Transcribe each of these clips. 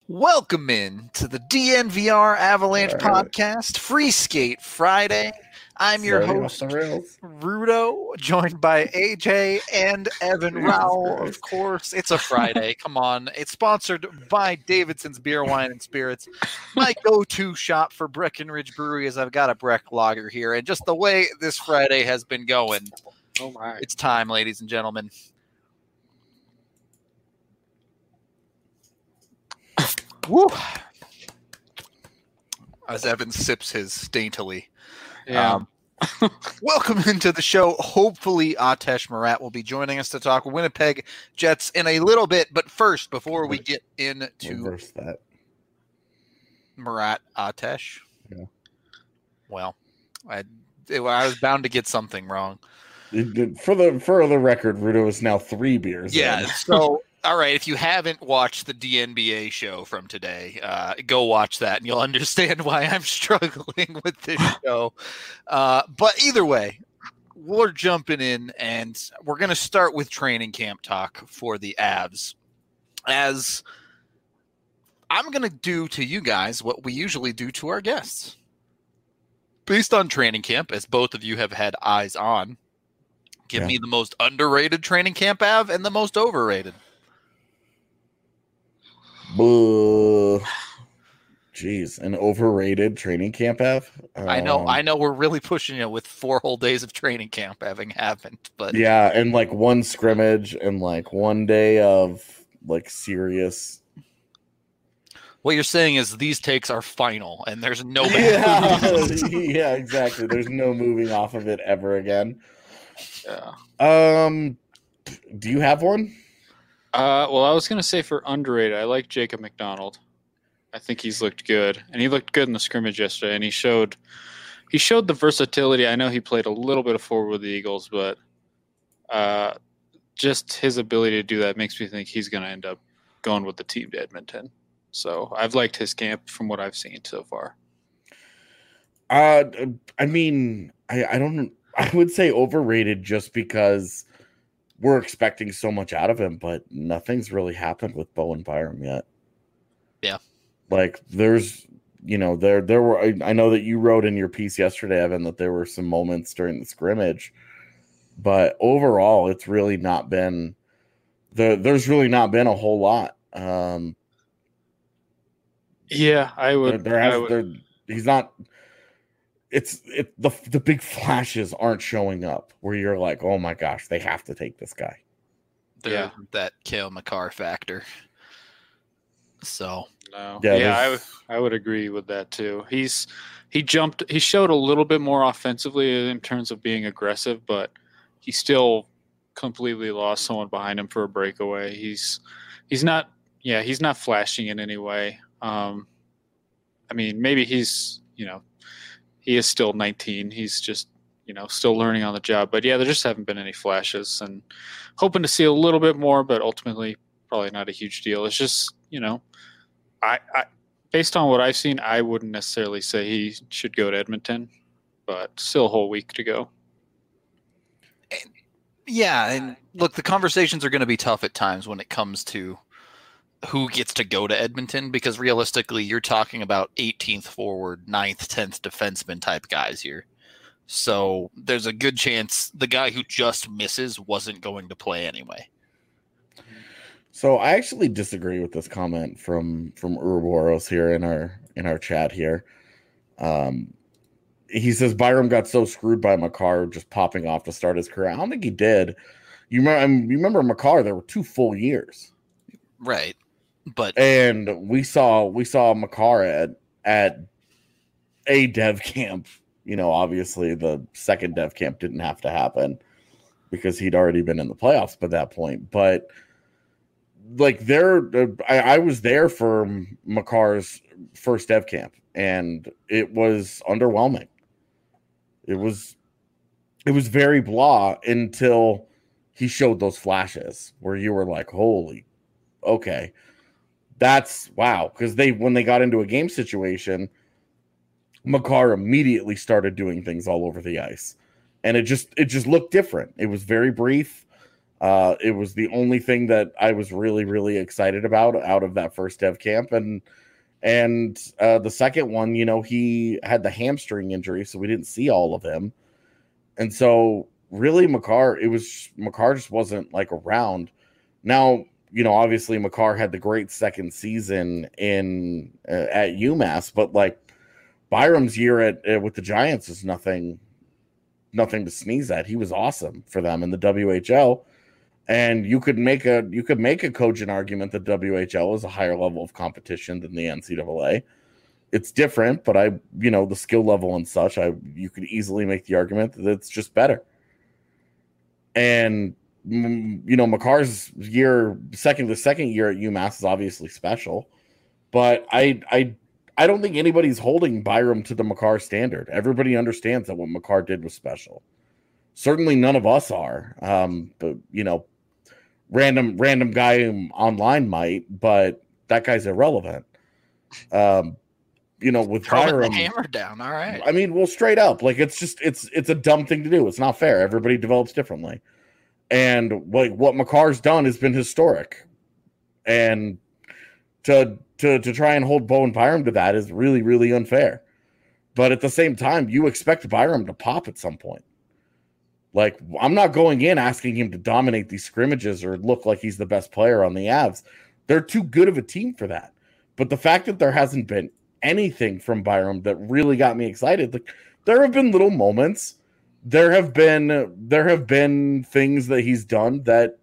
Welcome in to the DNVR Avalanche All right. podcast, Free Skate Friday. I'm your Starting host, off the rails. Rudo, joined by AJ and Evan Jesus Rowell. Christ. Of course, it's a Friday. Come on. It's sponsored by Davidson's Beer, Wine, and Spirits, my go-to shop for Breckenridge Brewery, as I've got a Breck lager here. And just the way this Friday has been going, Oh my. it's time, ladies and gentlemen. Woo! As Evan sips his daintily. Yeah. Welcome into the show. Hopefully, Atesh Marat will be joining us to talk Winnipeg Jets in a little bit. But first, before we get into Reverse that. Marat Atesh, Yeah. well, I was bound to get something wrong. For the record, Rudo is now 3 beers. Yeah. in. So, all right. If you haven't watched the DNBA show from today, go watch that, and you'll understand why I'm struggling with this show. But either way, we're jumping in, and we're going to start with training camp talk for the Avs. As I'm going to do to you guys what we usually do to our guests. Based on training camp, as both of you have had eyes on, give me the most underrated training camp Av and the most overrated. Jeez, an overrated training camp Av. I know we're really pushing it with 4 whole days of training camp having happened, but yeah, and like one scrimmage and like one day of like serious. what you're saying is these takes are final and there's no Yeah, exactly. There's no moving off of it ever again. Yeah. Do you have one? Well, I was going to say for underrated, I like Jacob McDonald. I think he's looked good, and he looked good in the scrimmage yesterday, and he showed the versatility. I know he played a little bit of forward with the Eagles, but just his ability to do that makes me think he's going to end up going with the team to Edmonton. So I've liked his camp from what I've seen so far. I mean, I don't. I would say overrated just because we're expecting so much out of him, but nothing's really happened with Bowen Byram yet. Yeah. Like there's, there were, I know that you wrote in your piece yesterday, Evan, that there were some moments during the scrimmage, but overall it's really not been, there's really not been a whole lot. Yeah, I would. He's not. The big flashes aren't showing up where you're like, oh my gosh, they have to take this guy. There's that Cale Makar factor. So no, yeah, I would agree with that too. He showed a little bit more offensively in terms of being aggressive, but he still completely lost someone behind him for a breakaway. He's not flashing in any way. I mean, maybe he's, he is still 19. He's just, still learning on the job. But yeah, there just haven't been any flashes, and hoping to see a little bit more, but ultimately probably not a huge deal. It's just, I based on what I've seen, I wouldn't necessarily say he should go to Edmonton, but still a whole week to go. Yeah, and look, the conversations are going to be tough at times when it comes to who gets to go to Edmonton, because realistically you're talking about 18th forward, 9th, 10th defenseman type guys here. So there's a good chance the guy who just misses wasn't going to play anyway. So I actually disagree with this comment from Ouroboros here in our chat here. He says Byram got so screwed by Makar just popping off to start his career. I don't think he did. You remember Makar? There were 2 full years, right? And we saw Makar at a dev camp. Obviously the second dev camp didn't have to happen because he'd already been in the playoffs by that point. But like I was there for Makar's first dev camp, and it was underwhelming. It was very blah until he showed those flashes where you were like, holy, okay. That's wow. Because when they got into a game situation, Makar immediately started doing things all over the ice, and it just looked different. It was very brief. It was the only thing that I was really, really excited about out of that first dev camp. And the second one, he had the hamstring injury, so we didn't see all of him. And so really Makar just wasn't like around. Now, obviously Makar had the great second season at UMass, but like Byram's year with the Giants is nothing to sneeze at. He was awesome for them in the WHL. And you could make a cogent argument that WHL is a higher level of competition than the NCAA. It's different, but the skill level and such, you could easily make the argument that it's just better. And Makar's the second year at UMass is obviously special, but I don't think anybody's holding Byram to the Makar standard. Everybody understands that what Makar did was special. Certainly none of us are. But random guy online might, but that guy's irrelevant. With Byram, the hammer down. All right. I mean, well, straight up, like it's a dumb thing to do. It's not fair. Everybody develops differently, and like what Makar's done has been historic, and to try and hold Bowen Byram to that is really, really unfair. But at the same time, you expect Byram to pop at some point. Like, I'm not going in asking him to dominate these scrimmages or look like he's the best player on the Avs. They're too good of a team for that. But the fact that there hasn't been anything from Byram that really got me excited, like there have been little moments. There have been things that he's done that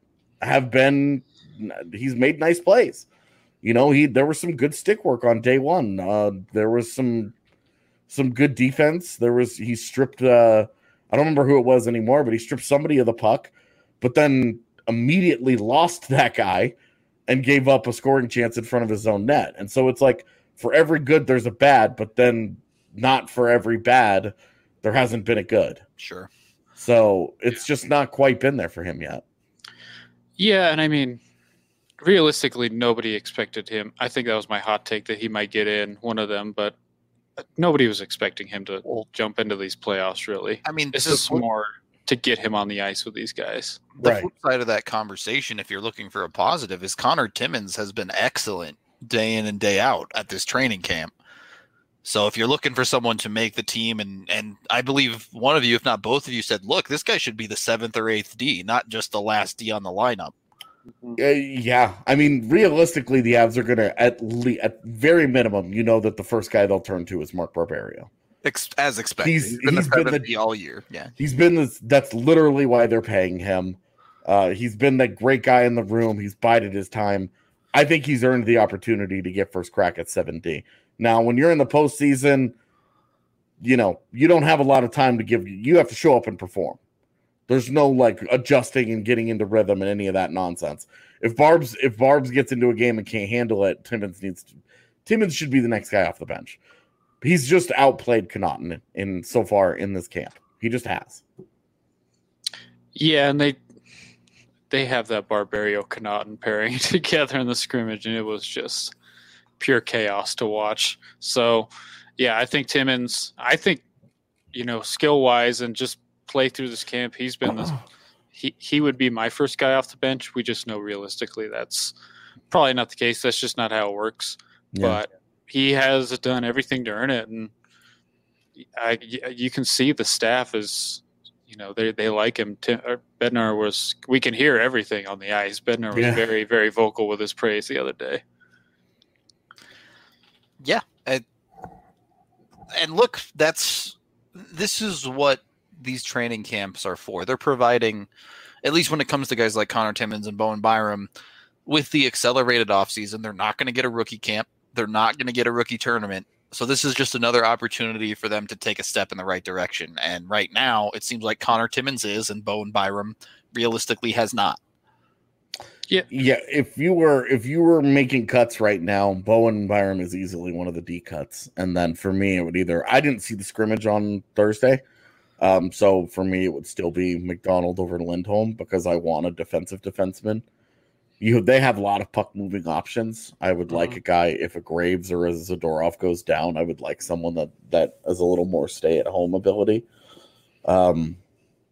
he's made nice plays. There was some good stick work on day one. There was some good defense. He stripped I don't remember who it was anymore, but he stripped somebody of the puck, but then immediately lost that guy and gave up a scoring chance in front of his own net. And so it's like for every good, there's a bad, but then not for every bad, there hasn't been a good. Sure. So it's just not quite been there for him yet. Yeah, and I mean, realistically, nobody expected him. I think that was my hot take that he might get in, one of them, but nobody was expecting him to jump into these playoffs, really. I mean, this is more to get him on the ice with these guys. The flip side of that conversation, if you're looking for a positive, is Connor Timmins has been excellent day in and day out at this training camp. So if you're looking for someone to make the team, and I believe one of you, if not both of you, said, look, this guy should be the 7th or 8th D, not just the last D on the lineup. Yeah, I mean, realistically, the Avs are going to at very minimum, that the first guy they'll turn to is Mark Barberio, as expected. He's been the all year. Yeah, he's been that's literally why they're paying him. He's been the great guy in the room. He's bided his time. I think he's earned the opportunity to get first crack at 7D. Now, when you're in the postseason, you don't have a lot of time to give. You have to show up and perform. There's no like adjusting and getting into rhythm and any of that nonsense. If Barbs gets into a game and can't handle it, Timmins should be the next guy off the bench. He's just outplayed Connaughton in so far in this camp. He just has. Yeah, and they have that Barberio Connaughton pairing together in the scrimmage, and it was just pure chaos to watch. So, yeah, I think Timmins. Skill wise and just play through this camp, he's been this. He would be my first guy off the bench. We just know realistically that's probably not the case. That's just not how it works. Yeah. But he has done everything to earn it, and you can see the staff is, they like him. Bednar was. We can hear everything on the ice. Bednar was very, very vocal with his praise the other day. Yeah, and look, this is what these training camps are for. They're providing, at least when it comes to guys like Connor Timmins and Bowen Byram, with the accelerated offseason, they're not going to get a rookie camp. They're not going to get a rookie tournament. So this is just another opportunity for them to take a step in the right direction. And right now, it seems like Connor Timmins is, and Bowen Byram realistically has not. Yeah. If you were making cuts right now, Bowen Byram is easily one of the D cuts. And then for me, it would I didn't see the scrimmage on Thursday. So for me, it would still be McDonald over Lindholm because I want a defensive defenseman. They have a lot of puck moving options. I would like a guy, if a Graves or a Zadorov goes down, I would like someone that has a little more stay at home ability.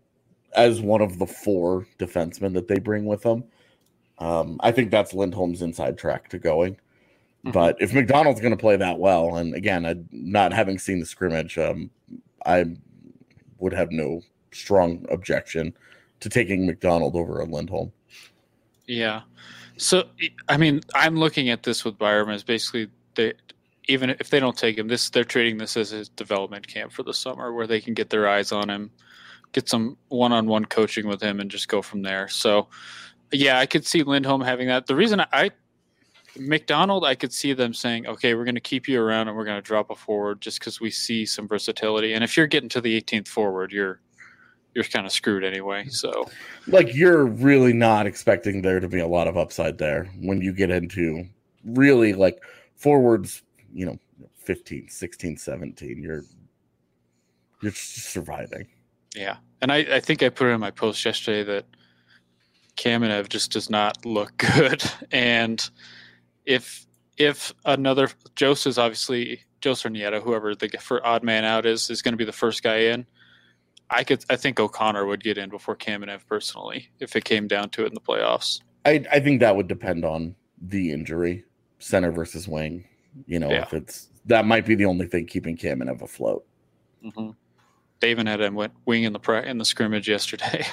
as one of the 4 defensemen that they bring with them. I think that's Lindholm's inside track to going. Mm-hmm. But if McDonald's going to play that well, and again, not having seen the scrimmage, I would have no strong objection to taking McDonald over a Lindholm. Yeah. So, I mean, I'm looking at this with Byram as basically even if they don't take him, they're treating this as his development camp for the summer where they can get their eyes on him, get some one-on-one coaching with him, and just go from there. So, yeah, I could see Lindholm having that. The reason McDonald, I could see them saying, okay, we're going to keep you around and we're going to drop a forward just because we see some versatility. And if you're getting to the 18th forward, you're kind of screwed anyway. So, like, you're really not expecting there to be a lot of upside there when you get into really like forwards, 15, 16, 17. You're just surviving. Yeah. And I think I put it in my post yesterday that Kamenev just does not look good. And if another Jose is obviously Jose or Nieto, whoever for odd man out is going to be the first guy in. I think O'Connor would get in before Kamenev personally if it came down to it in the playoffs. I think that would depend on the injury, center versus wing. If it's that might be the only thing keeping Kamenev afloat. Mm-hmm. They even had him wing in the scrimmage yesterday.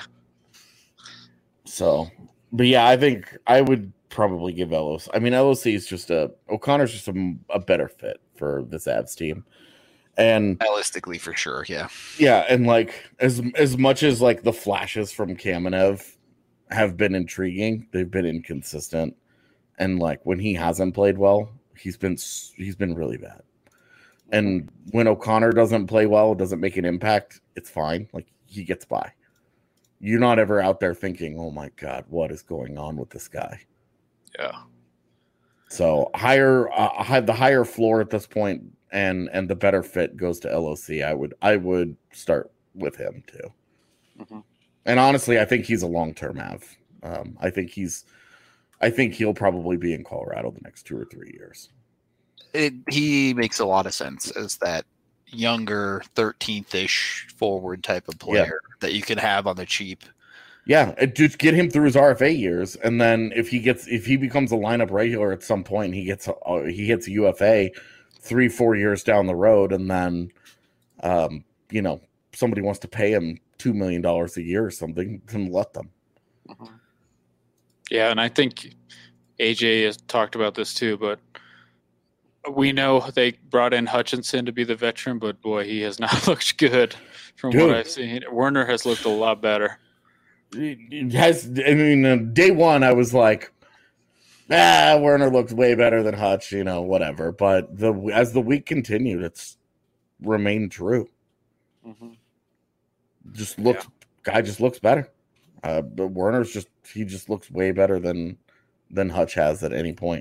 So, but yeah, I think I would probably give LOC. I mean, LOC is O'Connor's just a better fit for this Avs team. And stylistically, for sure, yeah. Yeah, and like as much as like the flashes from Kamenev have been intriguing, they've been inconsistent. And like when he hasn't played well, he's been really bad. And when O'Connor doesn't play well, doesn't make an impact, it's fine. Like he gets by. You're not ever out there thinking, "Oh my God, what is going on with this guy?" Yeah. So the higher floor at this point. And the better fit goes to LOC. I would start with him too. Mm-hmm. And honestly, I think he's a long-term Av. I think he'll probably be in Colorado the next 2 or 3 years. He makes a lot of sense as that younger 13th-ish forward type of player that you can have on the cheap. Yeah, just get him through his RFA years, and then if he becomes a lineup regular at some point, he hits a UFA 3-4 years down the road, and then somebody wants to pay him $2 million a year or something, then let them. Mm-hmm. Yeah, and I think AJ has talked about this too, but we know they brought in Hutchinson to be the veteran, but boy, he has not looked good from what I've seen. Werner has looked a lot better. It has. I mean, day one, I was like, Werner looks way better than Hutch, whatever. But as the week continued, it's remained true. Mm-hmm. Guy just looks better. But Werner's he just looks way better than Hutch has at any point.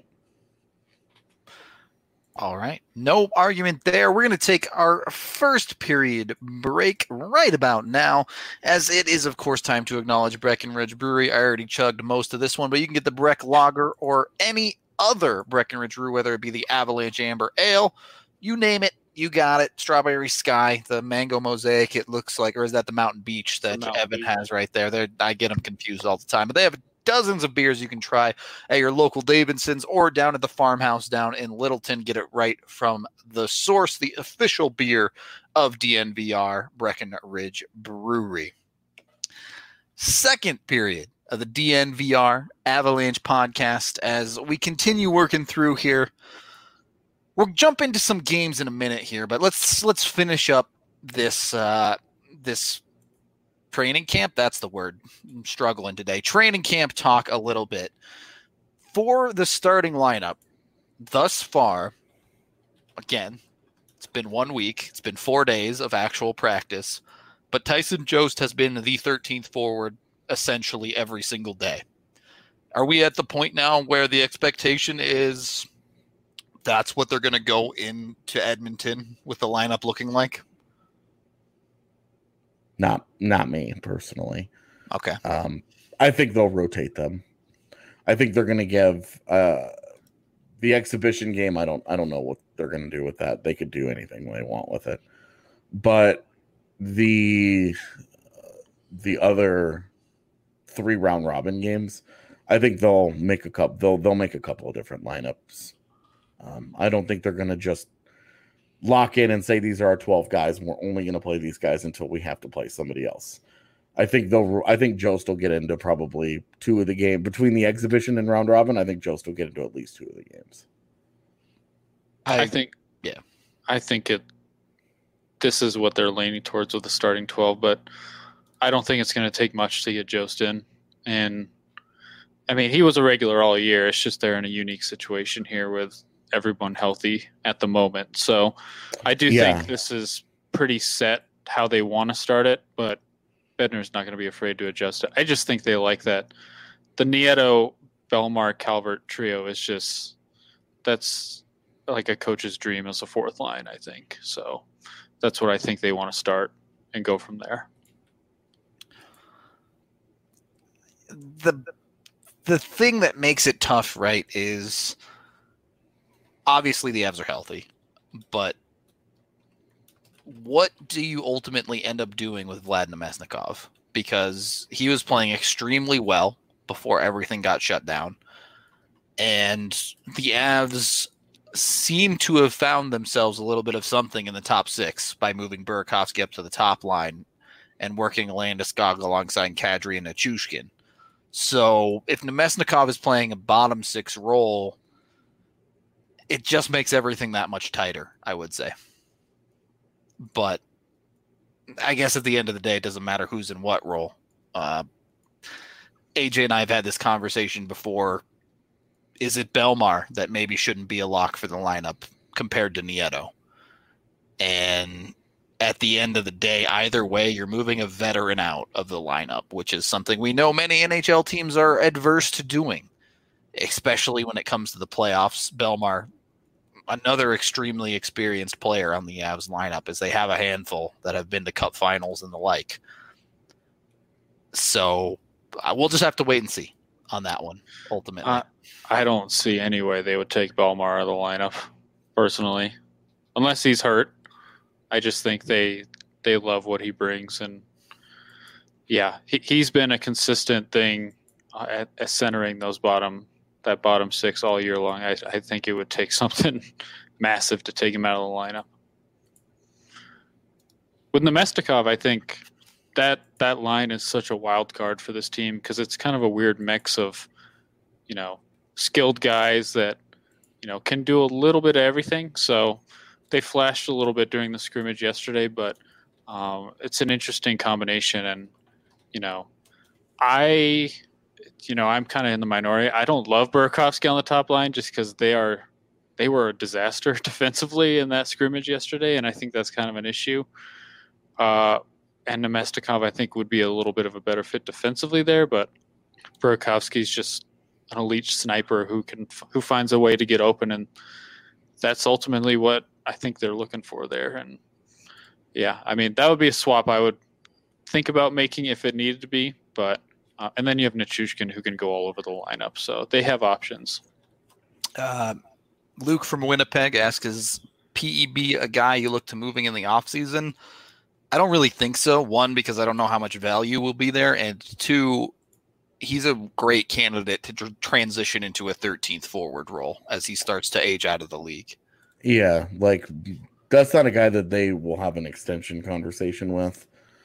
All right. No argument there. We're going to take our first period break right about now, as it is, of course, time to acknowledge Breckenridge Brewery. I already chugged most of this one, but you can get the Breck Lager or any other Breckenridge brew, whether it be the Avalanche Amber Ale. You name it, you got it. Strawberry Sky, the Mango Mosaic, it looks like, or is that the Mountain Beach that Evan has right there? I get them confused all the time, but they have dozens of beers you can try at your local Davidson's or down at the farmhouse down in Littleton. Get it right from the source, the official beer of DNVR, Breckenridge Brewery. Second period of the DNVR Avalanche podcast as we continue working through here. We'll jump into some games in a minute here, but let's finish up this training camp. That's the word. I'm struggling today. Training camp talk a little bit. For the starting lineup, thus far, again, it's been 1 week. It's been 4 days of actual practice, but Tyson Jost has been the 13th forward essentially every single day. Are we at the point now where the expectation is that's what they're going to go into Edmonton with the lineup looking like? Not me personally. Okay. I think they'll rotate them. I think they're going to give the exhibition game. I don't know what they're going to do with that. They could do anything they want with it, but the the other 3 round robin games, I think they'll make a couple. They'll make a couple of different lineups. I don't think they're going to just lock in and say these are our 12 guys and we're only going to play these guys until we have to play somebody else. I think Jost will get into probably 2 of the game between the exhibition and round robin. I think Jost will get into at least 2 of the games. I think this is what they're leaning towards with the starting 12, but I don't think it's going to take much to get Jost in. And I mean, he was a regular all year. It's just they're in a unique situation here with everyone healthy at the moment. So I do think this is pretty set how they want to start it, but Bednar's not going to be afraid to adjust it. I just think they like that. The Nieto, Belmar, Calvert trio is just, that's like a coach's dream as a 4th line, I think. So that's what I think they want to start and go from there. The thing that makes it tough, right, is obviously the Avs are healthy, but what do you ultimately end up doing with Vlad Namestnikov? Because he was playing extremely well before everything got shut down. And the Avs seem to have found themselves a little bit of something in the top 6 by moving Burakovsky up to the top line and working Landeskog alongside Kadri and Nichushkin. So if Namestnikov is playing a bottom 6 role, it just makes everything that much tighter, I would say. But I guess at the end of the day, it doesn't matter who's in what role. AJ and I have had this conversation before. Is it Belmar that maybe shouldn't be a lock for the lineup compared to Nieto? And at the end of the day, either way, you're moving a veteran out of the lineup, which is something we know many NHL teams are adverse to doing, especially when it comes to the playoffs. Belmar, another extremely experienced player on the Avs lineup, as they have a handful that have been to cup finals and the like. So we'll just have to wait and see on that one, ultimately. I don't see any way they would take Belmar out of the lineup, personally. Unless he's hurt. I just think they love what he brings. And, yeah, he's been a consistent thing at centering that bottom 6 all year long. I think it would take something massive to take him out of the lineup. With Namestnikov, I think that line is such a wild card for this team because it's kind of a weird mix of, skilled guys that, can do a little bit of everything. So they flashed a little bit during the scrimmage yesterday, but it's an interesting combination. And, I'm kind of in the minority. I don't love Burakovsky on the top line just because they were a disaster defensively in that scrimmage yesterday, and I think that's kind of an issue. And Namestnikov, I think, would be a little bit of a better fit defensively there, but Burakovsky's just an elite sniper who finds a way to get open, and that's ultimately what I think they're looking for there. And yeah, I mean, that would be a swap I would think about making if it needed to be, but and then you have Nichushkin who can go all over the lineup. So they have options. Luke from Winnipeg asks, is PEB a guy you look to moving in the offseason? I don't really think so. 1, because I don't know how much value will be there. And 2, he's a great candidate to transition into a 13th forward role as he starts to age out of the league. Yeah, that's not a guy that they will have an extension conversation with.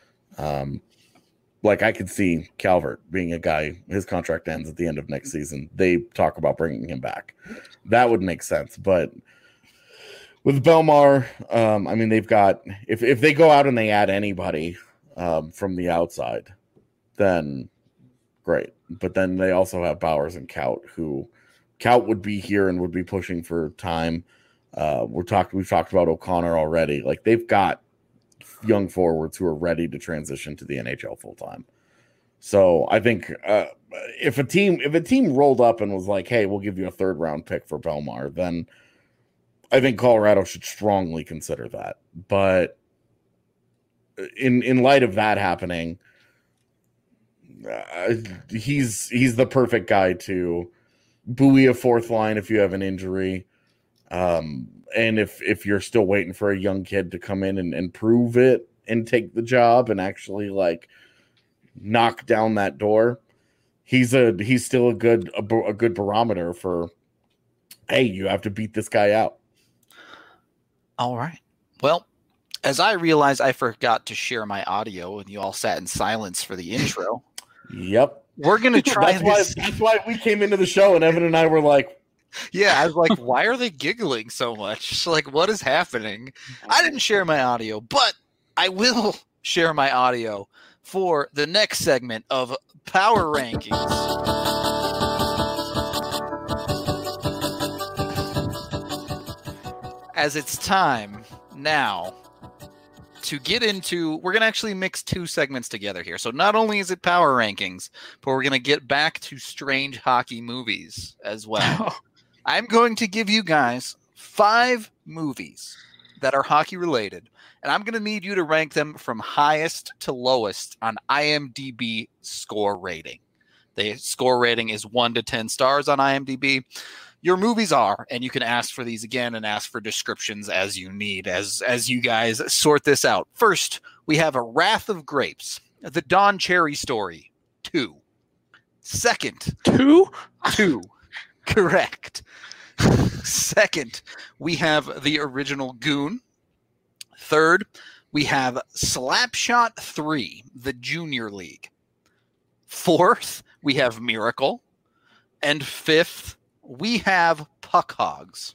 I could see Calvert being a guy, his contract ends at the end of next season. They talk about bringing him back. That would make sense. But with Belmar, they've got, if they go out and they add anybody from the outside, then great. But then they also have Bowers and Kaut, who Kaut would be here and would be pushing for time. We've talked about O'Connor already. They've got young forwards who are ready to transition to the NHL full time. So I think if a team rolled up and was like, "Hey, we'll give you a 3rd round pick for Belmar," then I think Colorado should strongly consider that. But in light of that happening, he's the perfect guy to buoy a 4th line if you have an injury. And if you're still waiting for a young kid to come in and prove it and take the job and actually knock down that door, he's still a good barometer for, hey, you have to beat this guy out. All right. Well, as I realized I forgot to share my audio and you all sat in silence for the intro. Yep. We're going to try this. That's why we came into the show and Evan and I were like, yeah, I was like, why are they giggling so much? Like, what is happening? I didn't share my audio, but I will share my audio for the next segment of Power Rankings. As it's time now to get into, we're going to actually mix two segments together here. So not only is it Power Rankings, but we're going to get back to strange hockey movies as well. I'm going to give you guys 5 movies that are hockey related, and I'm going to need you to rank them from highest to lowest on IMDb score rating. The score rating is 1 to 10 stars on IMDb. Your movies are, and you can ask for these again and ask for descriptions as you need, as you guys sort this out. First, we have A Wrath of Grapes, The Don Cherry Story, 2. Second, 2? Correct. Second, we have the original Goon. Third, we have Slapshot 3, the Junior League. Fourth, we have Miracle. And fifth, we have Puck Hogs.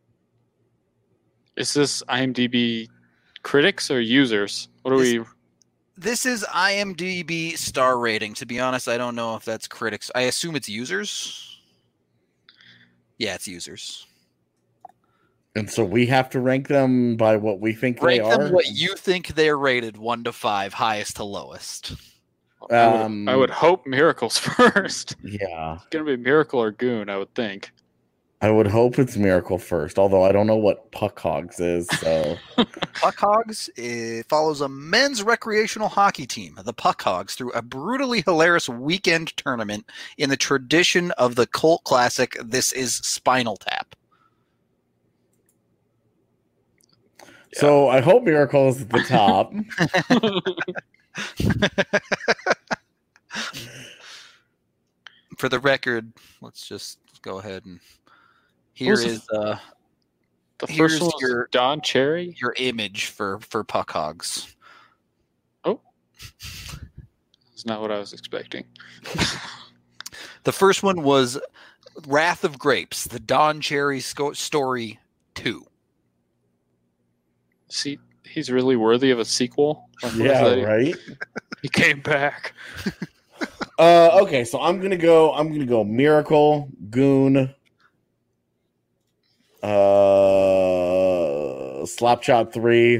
Is this IMDb critics or users? What are we? This is IMDb star rating. To be honest, I don't know if that's critics. I assume it's users. Yeah, it's users. And so we have to rank them by what we think they are? Rank them what you think they're rated, 1 to 5, highest to lowest. I would hope Miracle's first. Yeah. It's going to be Miracle or Goon, I would think. I would hope it's Miracle first, although I don't know what Puck Hogs is. So Puck Hogs follows a men's recreational hockey team, the Puck Hogs, through a brutally hilarious weekend tournament in the tradition of the cult classic This Is Spinal Tap. So I hope Miracle is at the top. For the record, let's just go ahead and here's the first one was Don Cherry. Your image for Puck Hogs. Oh, that's not what I was expecting. The first one was Wrath of Grapes, the Don Cherry Story 2. See, he's really worthy of a sequel. Yeah, right. He came back. Okay, so I'm gonna go Miracle, Goon, Slapshot 3,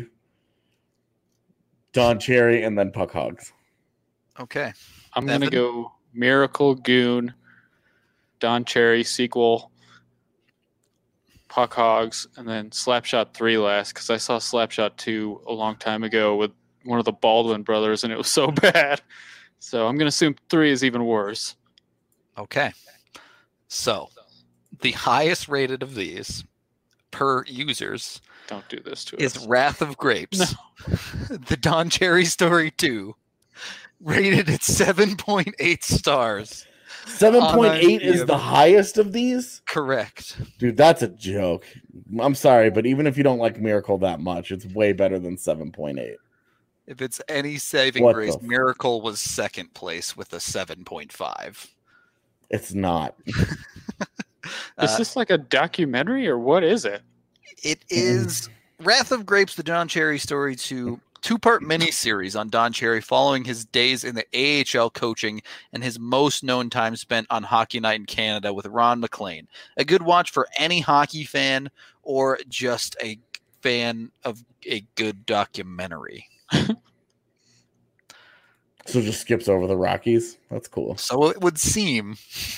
Don Cherry, and then Puck Hogs. Okay. I'm gonna go Miracle, Goon, Don Cherry sequel, Puck Hogs, and then Slapshot 3 last, because I saw Slapshot 2 a long time ago with one of the Baldwin brothers, and it was so bad. So I'm going to assume 3 is even worse. Okay. So the highest rated of these per users don't do this to is us. Wrath of Grapes. No. The Don Cherry Story 2, rated at 7.8 stars. 7.8 is the highest of these? Correct. Dude, that's a joke. I'm sorry, but even if you don't like Miracle that much, it's way better than 7.8. If it's any saving grace, Miracle was second place with a 7.5. It's not. Is this like a documentary or what is it? It is Wrath of Grapes, the Don Cherry Story 2, two-part miniseries on Don Cherry following his days in the AHL coaching and his most known time spent on Hockey Night in Canada with Ron MacLean. A good watch for any hockey fan or just a fan of a good documentary. So just skips over the Rockies. That's cool. So it would seem.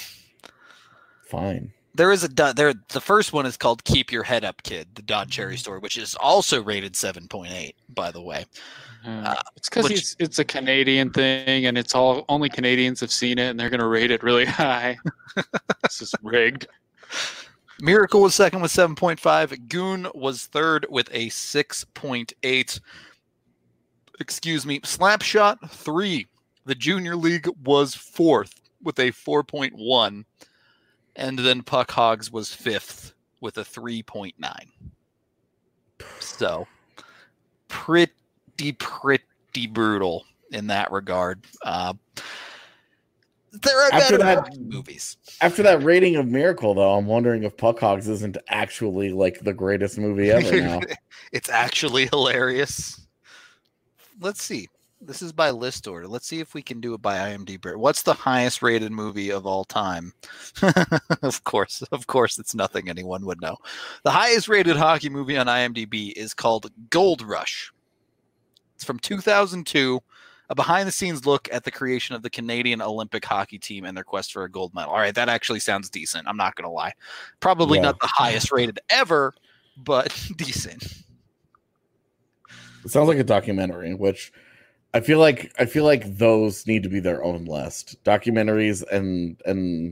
Fine. There is the first one is called Keep Your Head Up, Kid, the Don Cherry Story, which is also rated 7.8, by the way. It's because it's a Canadian thing, and it's only Canadians have seen it, and they're going to rate it really high. This is rigged. Miracle was second with 7.5. Goon was third with a 6.8. Excuse me. Slapshot 3, The Junior League was 4th with a 4.1, and then Puck Hogs was 5th with a 3.9. So pretty brutal in that regard. There are better movies. After that rating of Miracle, though, I'm wondering if Puck Hogs isn't actually like the greatest movie ever now. It's actually hilarious. Let's see. This is by list order. Let's see if we can do it by IMDb. What's the highest rated movie of all time? Of course, it's nothing anyone would know. The highest rated hockey movie on IMDb is called Gold Rush. It's from 2002. A behind-the-scenes look at the creation of the Canadian Olympic hockey team and their quest for a gold medal. All right, that actually sounds decent. I'm not going to lie. Probably not the highest rated ever, but decent. It sounds like a documentary, which I feel like those need to be their own list. Documentaries and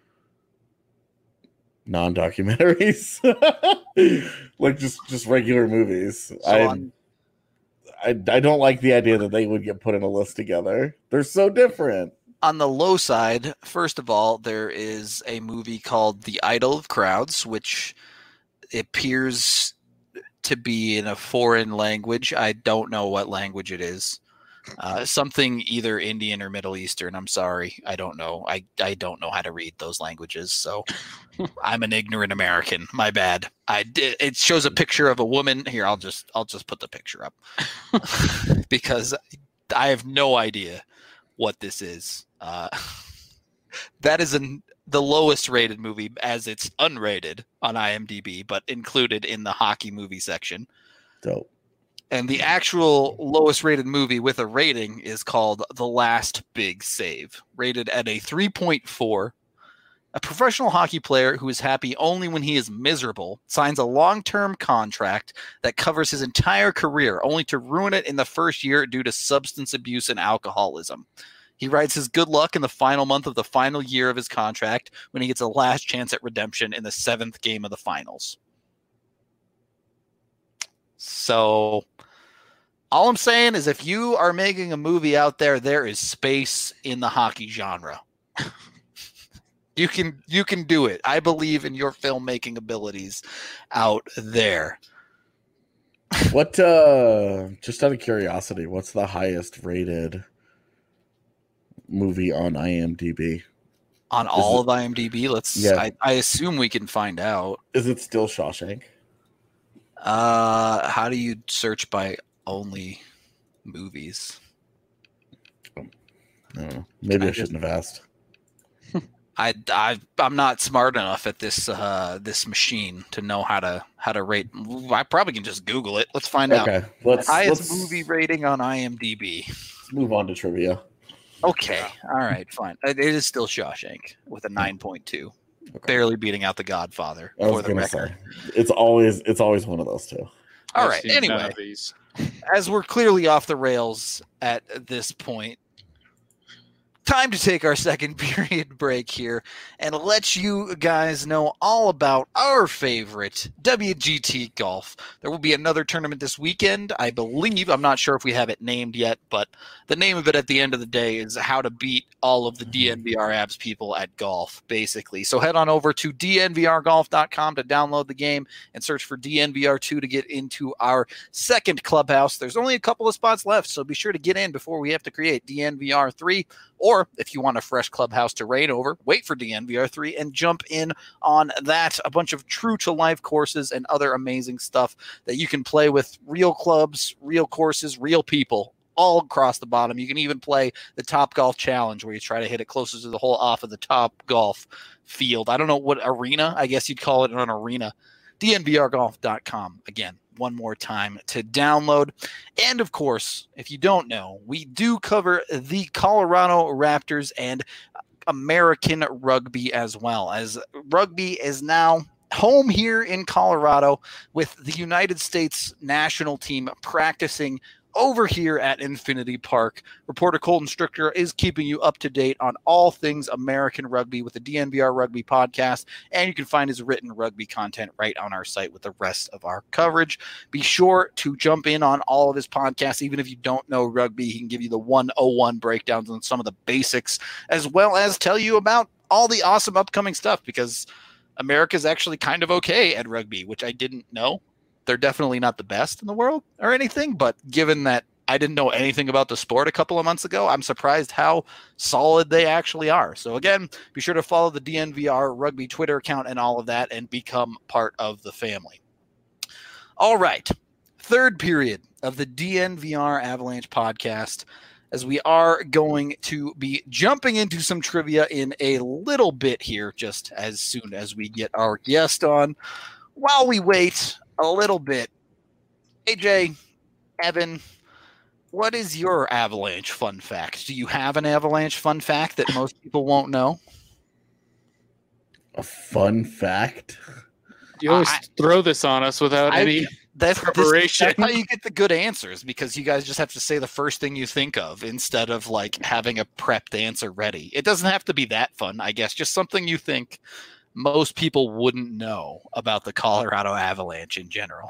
non-documentaries, like just regular movies. So I don't like the idea that they would get put in a list together. They're so different. On the low side, first of all, there is a movie called The Idol of Crowds, which appears to be in a foreign language. I don't know what language it is. Something either Indian or Middle Eastern. I'm sorry. I don't know. I don't know how to read those languages. So I'm an ignorant American. My bad. It shows a picture of a woman here. I'll just put the picture up because I have no idea what this is. That is the lowest rated movie as it's unrated on IMDb, but included in the hockey movie section. Dope. And the actual lowest rated movie with a rating is called The Last Big Save, rated at a 3.4. A professional hockey player who is happy only when he is miserable signs a long-term contract that covers his entire career, only to ruin it in the first year due to substance abuse and alcoholism. He writes his good luck in the final month of the final year of his contract when he gets a last chance at redemption in the 7th game of the finals. So all I'm saying is if you are making a movie out there, there is space in the hockey genre. You can do it. I believe in your filmmaking abilities out there. What just out of curiosity, what's the highest rated movie on IMDb? On all of IMDb? I assume we can find out. Is it still Shawshank? How do you search by only movies? I don't know. Maybe I shouldn't have asked. I'm not smart enough at this machine to know how to rate. I probably can just Google it. Let's find out. Highest movie rating on IMDb. Let's move on to trivia. Okay. All right. Fine. It is still Shawshank with a 9.2, barely beating out The Godfather. I was going to say it's always one of those two. All right. Anyway, as we're clearly off the rails at this point, time to take our second period break here and let you guys know all about our favorite WGT Golf. There will be another tournament this weekend, I believe. I'm not sure if we have it named yet, but the name of it at the end of the day is how to beat all of the DNVR abs people at golf, basically. So head on over to dnvrgolf.com to download the game and search for DNVR2 to get into our second clubhouse. There's only a couple of spots left, so be sure to get in before we have to create DNVR3. Or if you want a fresh clubhouse to raid over, wait for DNVR3 and jump in on that. A bunch of true-to-life courses and other amazing stuff that you can play with real clubs, real courses, real people all across the bottom. You can even play the Top Golf Challenge where you try to hit it closest to the hole off of the Top Golf field. I don't know what arena. I guess you'd call it an arena. DNVRgolf.com. Again, one more time to download. And of course, if you don't know, we do cover the Colorado Raptors and American rugby as well, as rugby is now home here in Colorado with the United States national team practicing over here at Infinity Park. Reporter Colton Stricker is keeping you up to date on all things American rugby with the DNVR Rugby podcast, and you can find his written rugby content right on our site with the rest of our coverage. Be sure to jump in on all of his podcasts. Even if you don't know rugby, he can give you the 101 breakdowns on some of the basics, as well as tell you about all the awesome upcoming stuff, because America's actually kind of okay at rugby, which I didn't know. They're definitely not the best in the world or anything, but given that I didn't know anything about the sport a couple of months ago, I'm surprised how solid they actually are. So again, be sure to follow the DNVR Rugby Twitter account and all of that and become part of the family. All right. Third period of the DNVR Avalanche podcast, as we are going to be jumping into some trivia in a little bit here, just as soon as we get our guest on. While we wait a little bit, AJ, Evan, what is your Avalanche fun fact? Do you have an Avalanche fun fact that most people won't know? A fun fact? You always throw this on us without any preparation. That's how you get the good answers, because you guys just have to say the first thing you think of instead of like having a prepped answer ready. It doesn't have to be that fun, I guess. Just something you think most people wouldn't know about the Colorado Avalanche in general.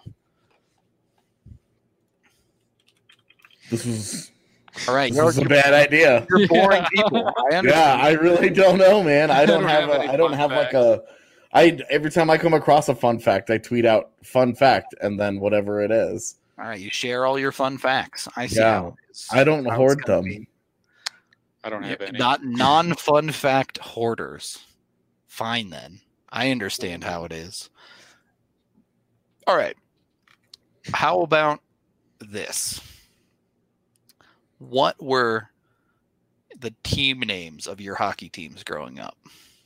This is all right. This is a bad idea. You're boring people. I understand. Yeah, I really don't know, man. I don't have like a. Every time I come across a fun fact, I tweet out "fun fact" and then whatever it is. All right, you share all your fun facts. I see. Yeah, how it is. I don't hoard them. I don't have any. Not non-fun fact hoarders. Fine then. I understand how it is. All right. How about this? What were the team names of your hockey teams growing up?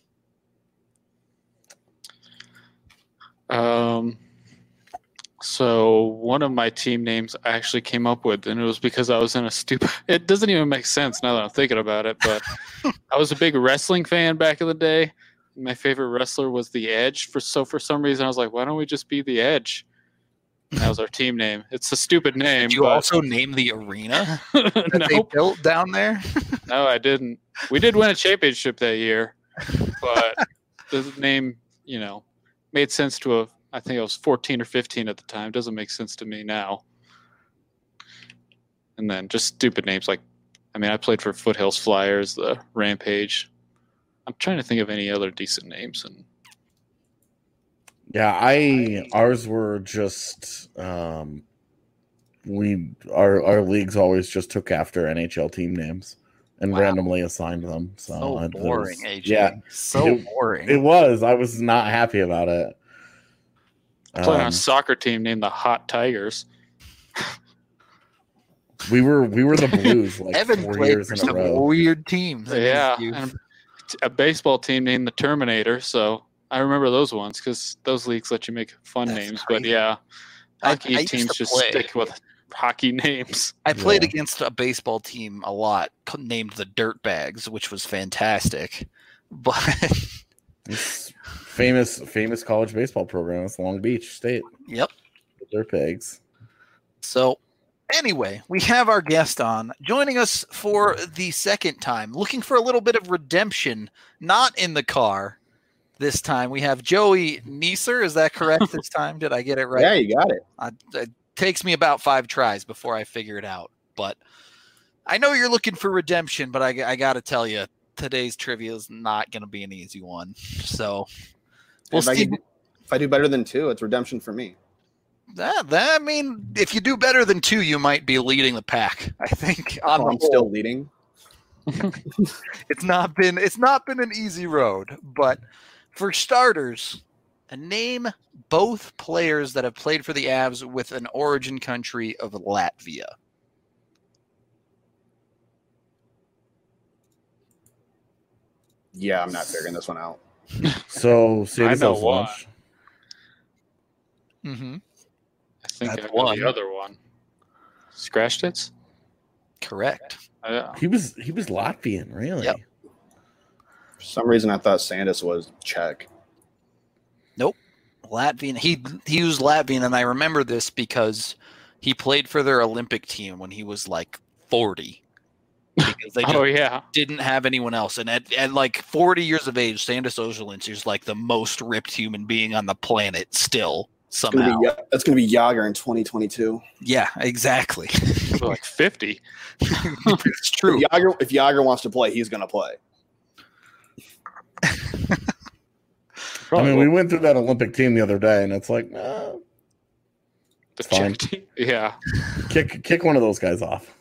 So one of my team names I actually came up with, and it was because I was in a stupid. It doesn't even make sense now that I'm thinking about it, but I was a big wrestling fan back in the day. My favorite wrestler was The Edge. For some reason, I was like, why don't we just be The Edge? And that was our team name. It's a stupid name. Did you also name the arena that they built down there? No, I didn't. We did win a championship that year, but the name, made sense to I think I was 14 or 15 at the time. Doesn't make sense to me now. And then just stupid names like, I played for Foothills Flyers, the Rampage. I'm trying to think of any other decent names. And yeah, ours were just our leagues always just took after NHL team names and randomly assigned them. So boring, AJ. Yeah, boring. It was. I was not happy about it. I played on a soccer team named the Hot Tigers. We were the Blues like Evan 4 played years for in some a row. weird teams. Yeah, and a baseball team named the Terminator. So I remember those ones because those leagues let you make fun names. Crazy. But yeah, hockey teams just stick with hockey names. I played against a baseball team a lot named the Dirtbags, which was fantastic. But it's famous college baseball program. It's Long Beach State. Yep. The Dirtbags. So anyway, we have our guest on, joining us for the second time, looking for a little bit of redemption, not in the car this time. We have Joey Neeser. Is that correct this time? Did I get it right? Yeah, you got it. It takes me about 5 tries before I figure it out. But I know you're looking for redemption, but I got to tell you, today's trivia is not going to be an easy one. So we'll see. If I do better than 2, it's redemption for me. If you do better than 2, you might be leading the pack. I think. I'm still leading. It's not been an easy road, but for starters, name both players that have played for the Avs with an origin country of Latvia. Yeah, I'm not figuring this one out. So save yourself lunch. Mm-hmm. I think I know the other one. Scratched it? Correct. He was Latvian, really? Yep. For some reason, I thought Sandis was Czech. Nope. Latvian. He used Latvian, and I remember this because He played for their Olympic team when he was like 40 because they just Oh yeah. didn't have anyone else. And at like 40 years of age, Sandis Ozolinski is like the most ripped human being on the planet still somehow. That's going to be Yager in 2022. Yeah, exactly. Like 50. It's true. If Yager wants to play, he's going to play. I mean, we went through that Olympic team the other day, and it's like, the fine. Czech team. Yeah. kick one of those guys off.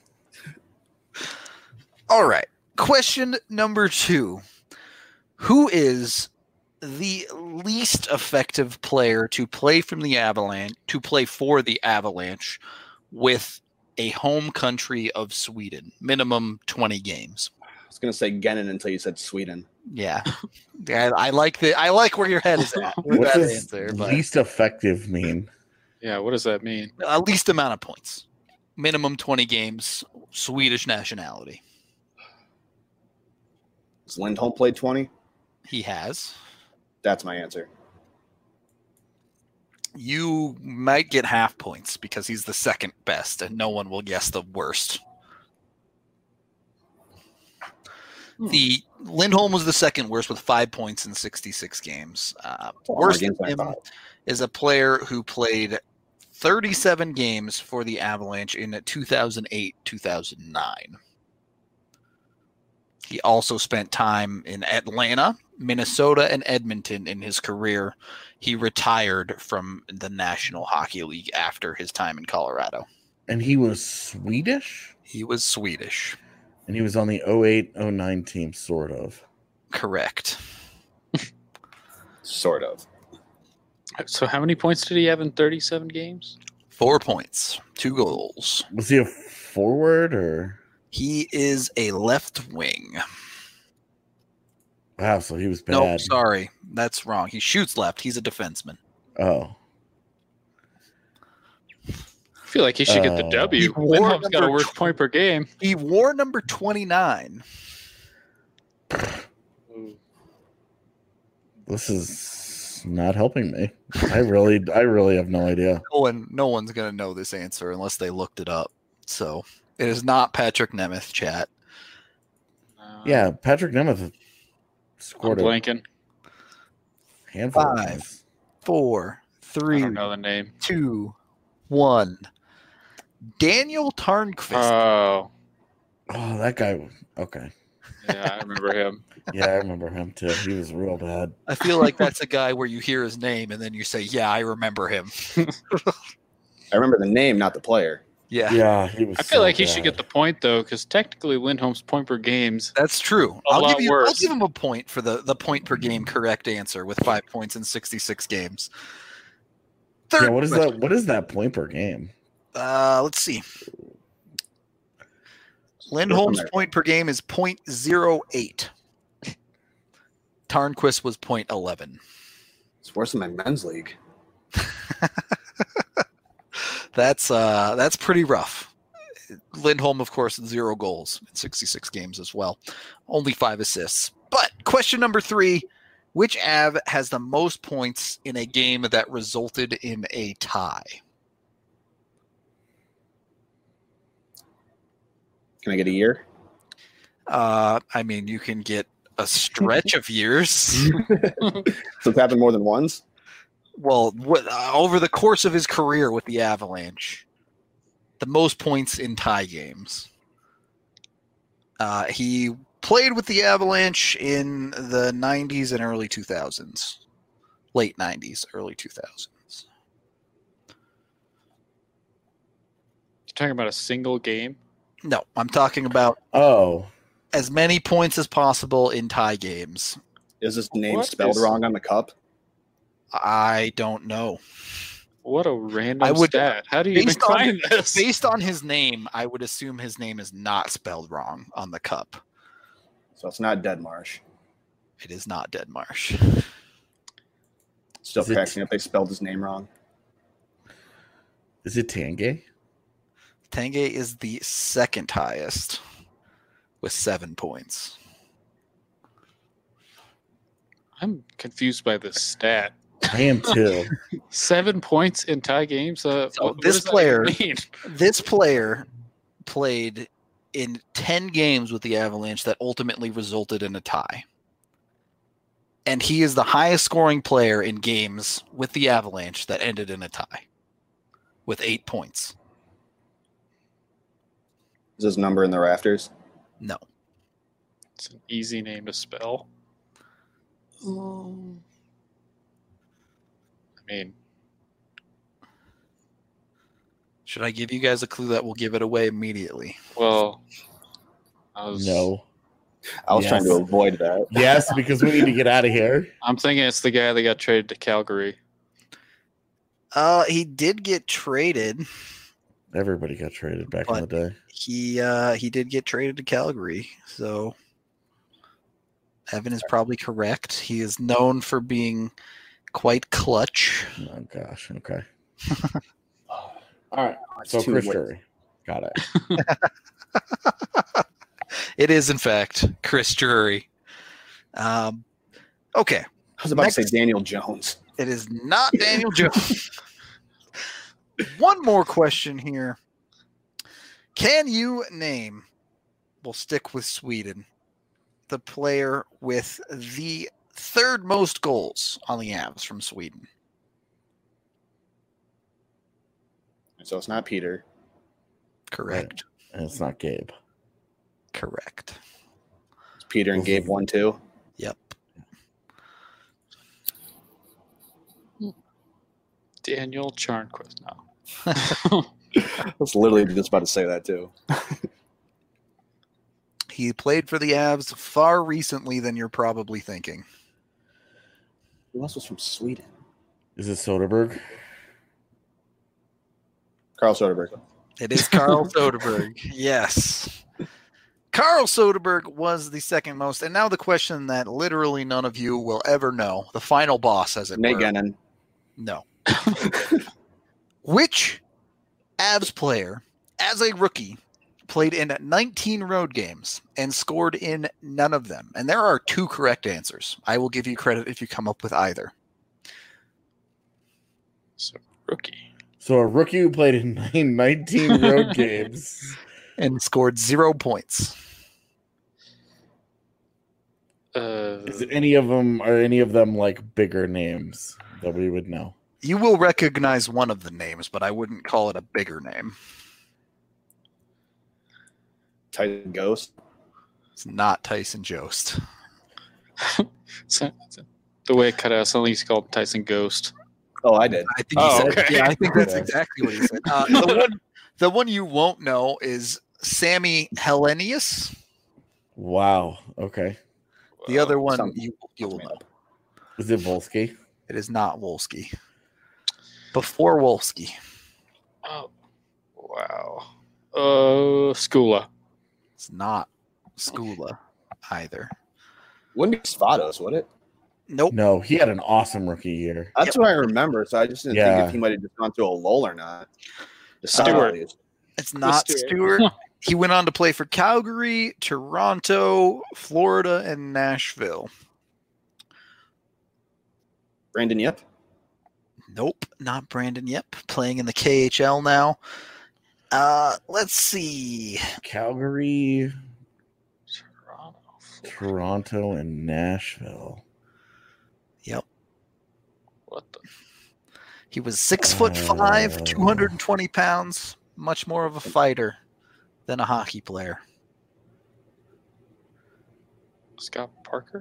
All right. Question number 2. Who is the least effective player to play for the Avalanche with a home country of Sweden? Minimum 20 games. I was going to say Gennin until you said Sweden. Yeah. I like where your head is at with What that does answer. But least effective mean? Yeah. What does that mean? least amount of points. Minimum 20 games, Swedish nationality. Has Lindholm played 20? He has. That's my answer. You might get half points because he's the second best, and no one will guess the worst. The Lindholm was the second worst with 5 points in 66 games. Worse than him is a player who played 37 games for the Avalanche in 2008-2009. He also spent time in Atlanta, Minnesota, and Edmonton in his career. He retired from the National Hockey League after his time in Colorado. And he was Swedish? He was Swedish. And he was on the 08-09 team, sort of. Correct. Sort of. So how many points did he have in 37 games? 4 points, 2 goals. Was he a forward or? He is a left wing. Wow, so he was bad. No, sorry. That's wrong. He shoots left. He's a defenseman. Oh. I feel like he should get the W. Lindholm's got a worse point per game. He wore number 29. This is not helping me. I really have no idea. No one's going to know this answer unless they looked it up. So it is not Patrick Nemeth, chat. Yeah, Patrick Nemeth scored I'm blanking. a handful. 5, 4, 3, I don't know the name. 2, 1. Daniel Tarnqvist. Oh, Oh, that guy. Okay. yeah, I remember him. Yeah, I remember him too. He was real bad. I feel like that's a guy where you hear his name and then you say, yeah, I remember him. I remember the name, not the player. Yeah. Yeah, he was. I feel so like he bad. should get the point though, because technically Lindholm's point per games. That's true. A I'll lot give worse. him a point for the point per game correct answer with 5 points in 66 games. Third Yeah, what is question. that? What is that point per game? Let's see. Lindholm's point per game is 0.08. Tarnqvist was 0.11. It's worse than my men's league. That's pretty rough. Lindholm, of course, 0 goals in 66 games as well. Only 5 assists. But question number 3, which Av has the most points in a game that resulted in a tie? Can I get a year? I mean, you can get a stretch of years. So it's happened more than once? Well, over the course of his career with the Avalanche, the most points in tie games. He played with the Avalanche in the 90s and early 2000s. Late 90s, early 2000s. You're talking about a single game? No, I'm talking about Oh, as many points as possible in tie games. Is this name What spelled is- wrong on the cup? I don't know. What a random I would- stat. How do you even based on- find this? Based on his name, I would assume his name is not spelled wrong on the cup. So it's not Deadmarsh. It is not Deadmarsh. Still Is it- cracks me up. They spelled his name wrong. is it Tanguay? Tanguay is the second highest with 7 points. I'm confused by this stat. I am too. 7 points in tie games. So what this does that player- even mean? This player played in 10 games with the Avalanche that ultimately resulted in a tie. And he is the highest scoring player in games with the Avalanche that ended in a tie with 8 points. Is his number in the rafters? No. It's an easy name to spell. I mean, Should I give you guys a clue that will give it away immediately? well, No. I was Yes. trying to avoid that. Yes, because we need to get out of here. I'm thinking it's the guy that got traded to Calgary. He did get traded. Everybody got traded back in the day. He did get traded to Calgary. So Evan is probably correct. He is known for being quite clutch. Oh gosh. Okay. All right. It's So too Chris late. Drury. Got it. It is, in fact, Chris Drury. Okay. I was about to Next. say Daniel Jones. It is not Daniel Jones. One more question here. Can you name, we'll stick with Sweden, the player with the third most goals on the Avs from Sweden? So it's not Peter. Correct. And it's not Gabe. Correct. It's Peter and Gabe 1-2. Yep. Daniel Charnquist. No. I was literally just about to say that too. He played for the Avs far recently than you're probably thinking. Who else was from Sweden? Is it Soderberg? Carl Soderberg. It is Carl Soderberg. Yes. Carl Soderberg was the second most. And now the question that literally none of you will ever know. The final boss, as it Nate were. Gennon. No. Which Avs player, as a rookie, played in 19 road games and scored in none of them? And there are 2 correct answers. I will give you credit if you come up with either. So, rookie. So a rookie who played in 19 road games. And scored 0 points. Is it any of them? Are any of them like bigger names that we would know? You will recognize one of the names, but I wouldn't call it a bigger name. Titan Ghost. It's not Tyson Jost. So, the way it cut out, something he's called Tyson Ghost. Oh, I did. I think Oh, he said, okay. yeah, I think that's Okay. exactly what he said. The one you won't know is Sammy Hellenius. Wow. Okay. The other one Some- you will know. Is it Volsky? It is not Wolski. Before Wolski. Oh, wow. Skula. It's not Skula either. Wouldn't be Svados, would it? Nope. No, he had an awesome rookie year. That's what I remember. So I just didn't Yeah. think if he might have just gone to a lull or not. The Stewart. Sounders. It's not Stewart. Stewart. He went on to play for Calgary, Toronto, Florida, and Nashville. Brandon Yep. Nope, not Brandon Yep. Playing in the KHL now. Let's see. Calgary, Toronto. Toronto, and Nashville. Yep. What the? He was 6'5", 220 pounds, much more of a fighter than a hockey player. Scott Parker?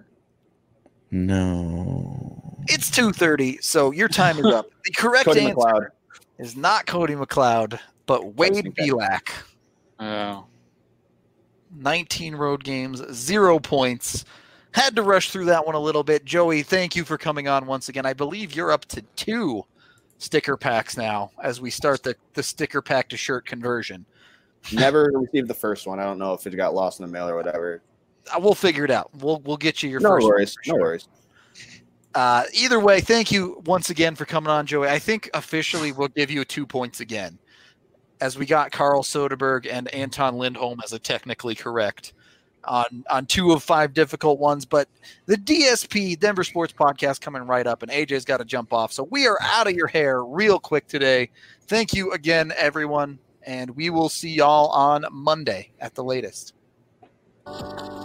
No. It's 2:30, so your time is up. The correct Cody answer McLeod. is not Cody McLeod, but Wade thinking that. Belak. Oh. 19 road games, 0 points. Had to rush through that one a little bit. Joey, thank you for coming on once again. I believe you're up to 2 sticker packs now as we start the sticker pack to shirt conversion. Never received the first one. I don't know if it got lost in the mail or whatever. We'll figure it out. We'll get you your No first one worries. for No sure. worries. Either way, thank you once again for coming on, Joey. I think officially we'll give you 2 points again, as we got Carl Soderberg and Anton Lindholm as a technically correct. on 2 of 5 difficult ones. But the DSP, Denver Sports Podcast, coming right up, and AJ's got to jump off. So we are out of your hair real quick today. Thank you again, everyone, and we will see y'all on Monday at the latest.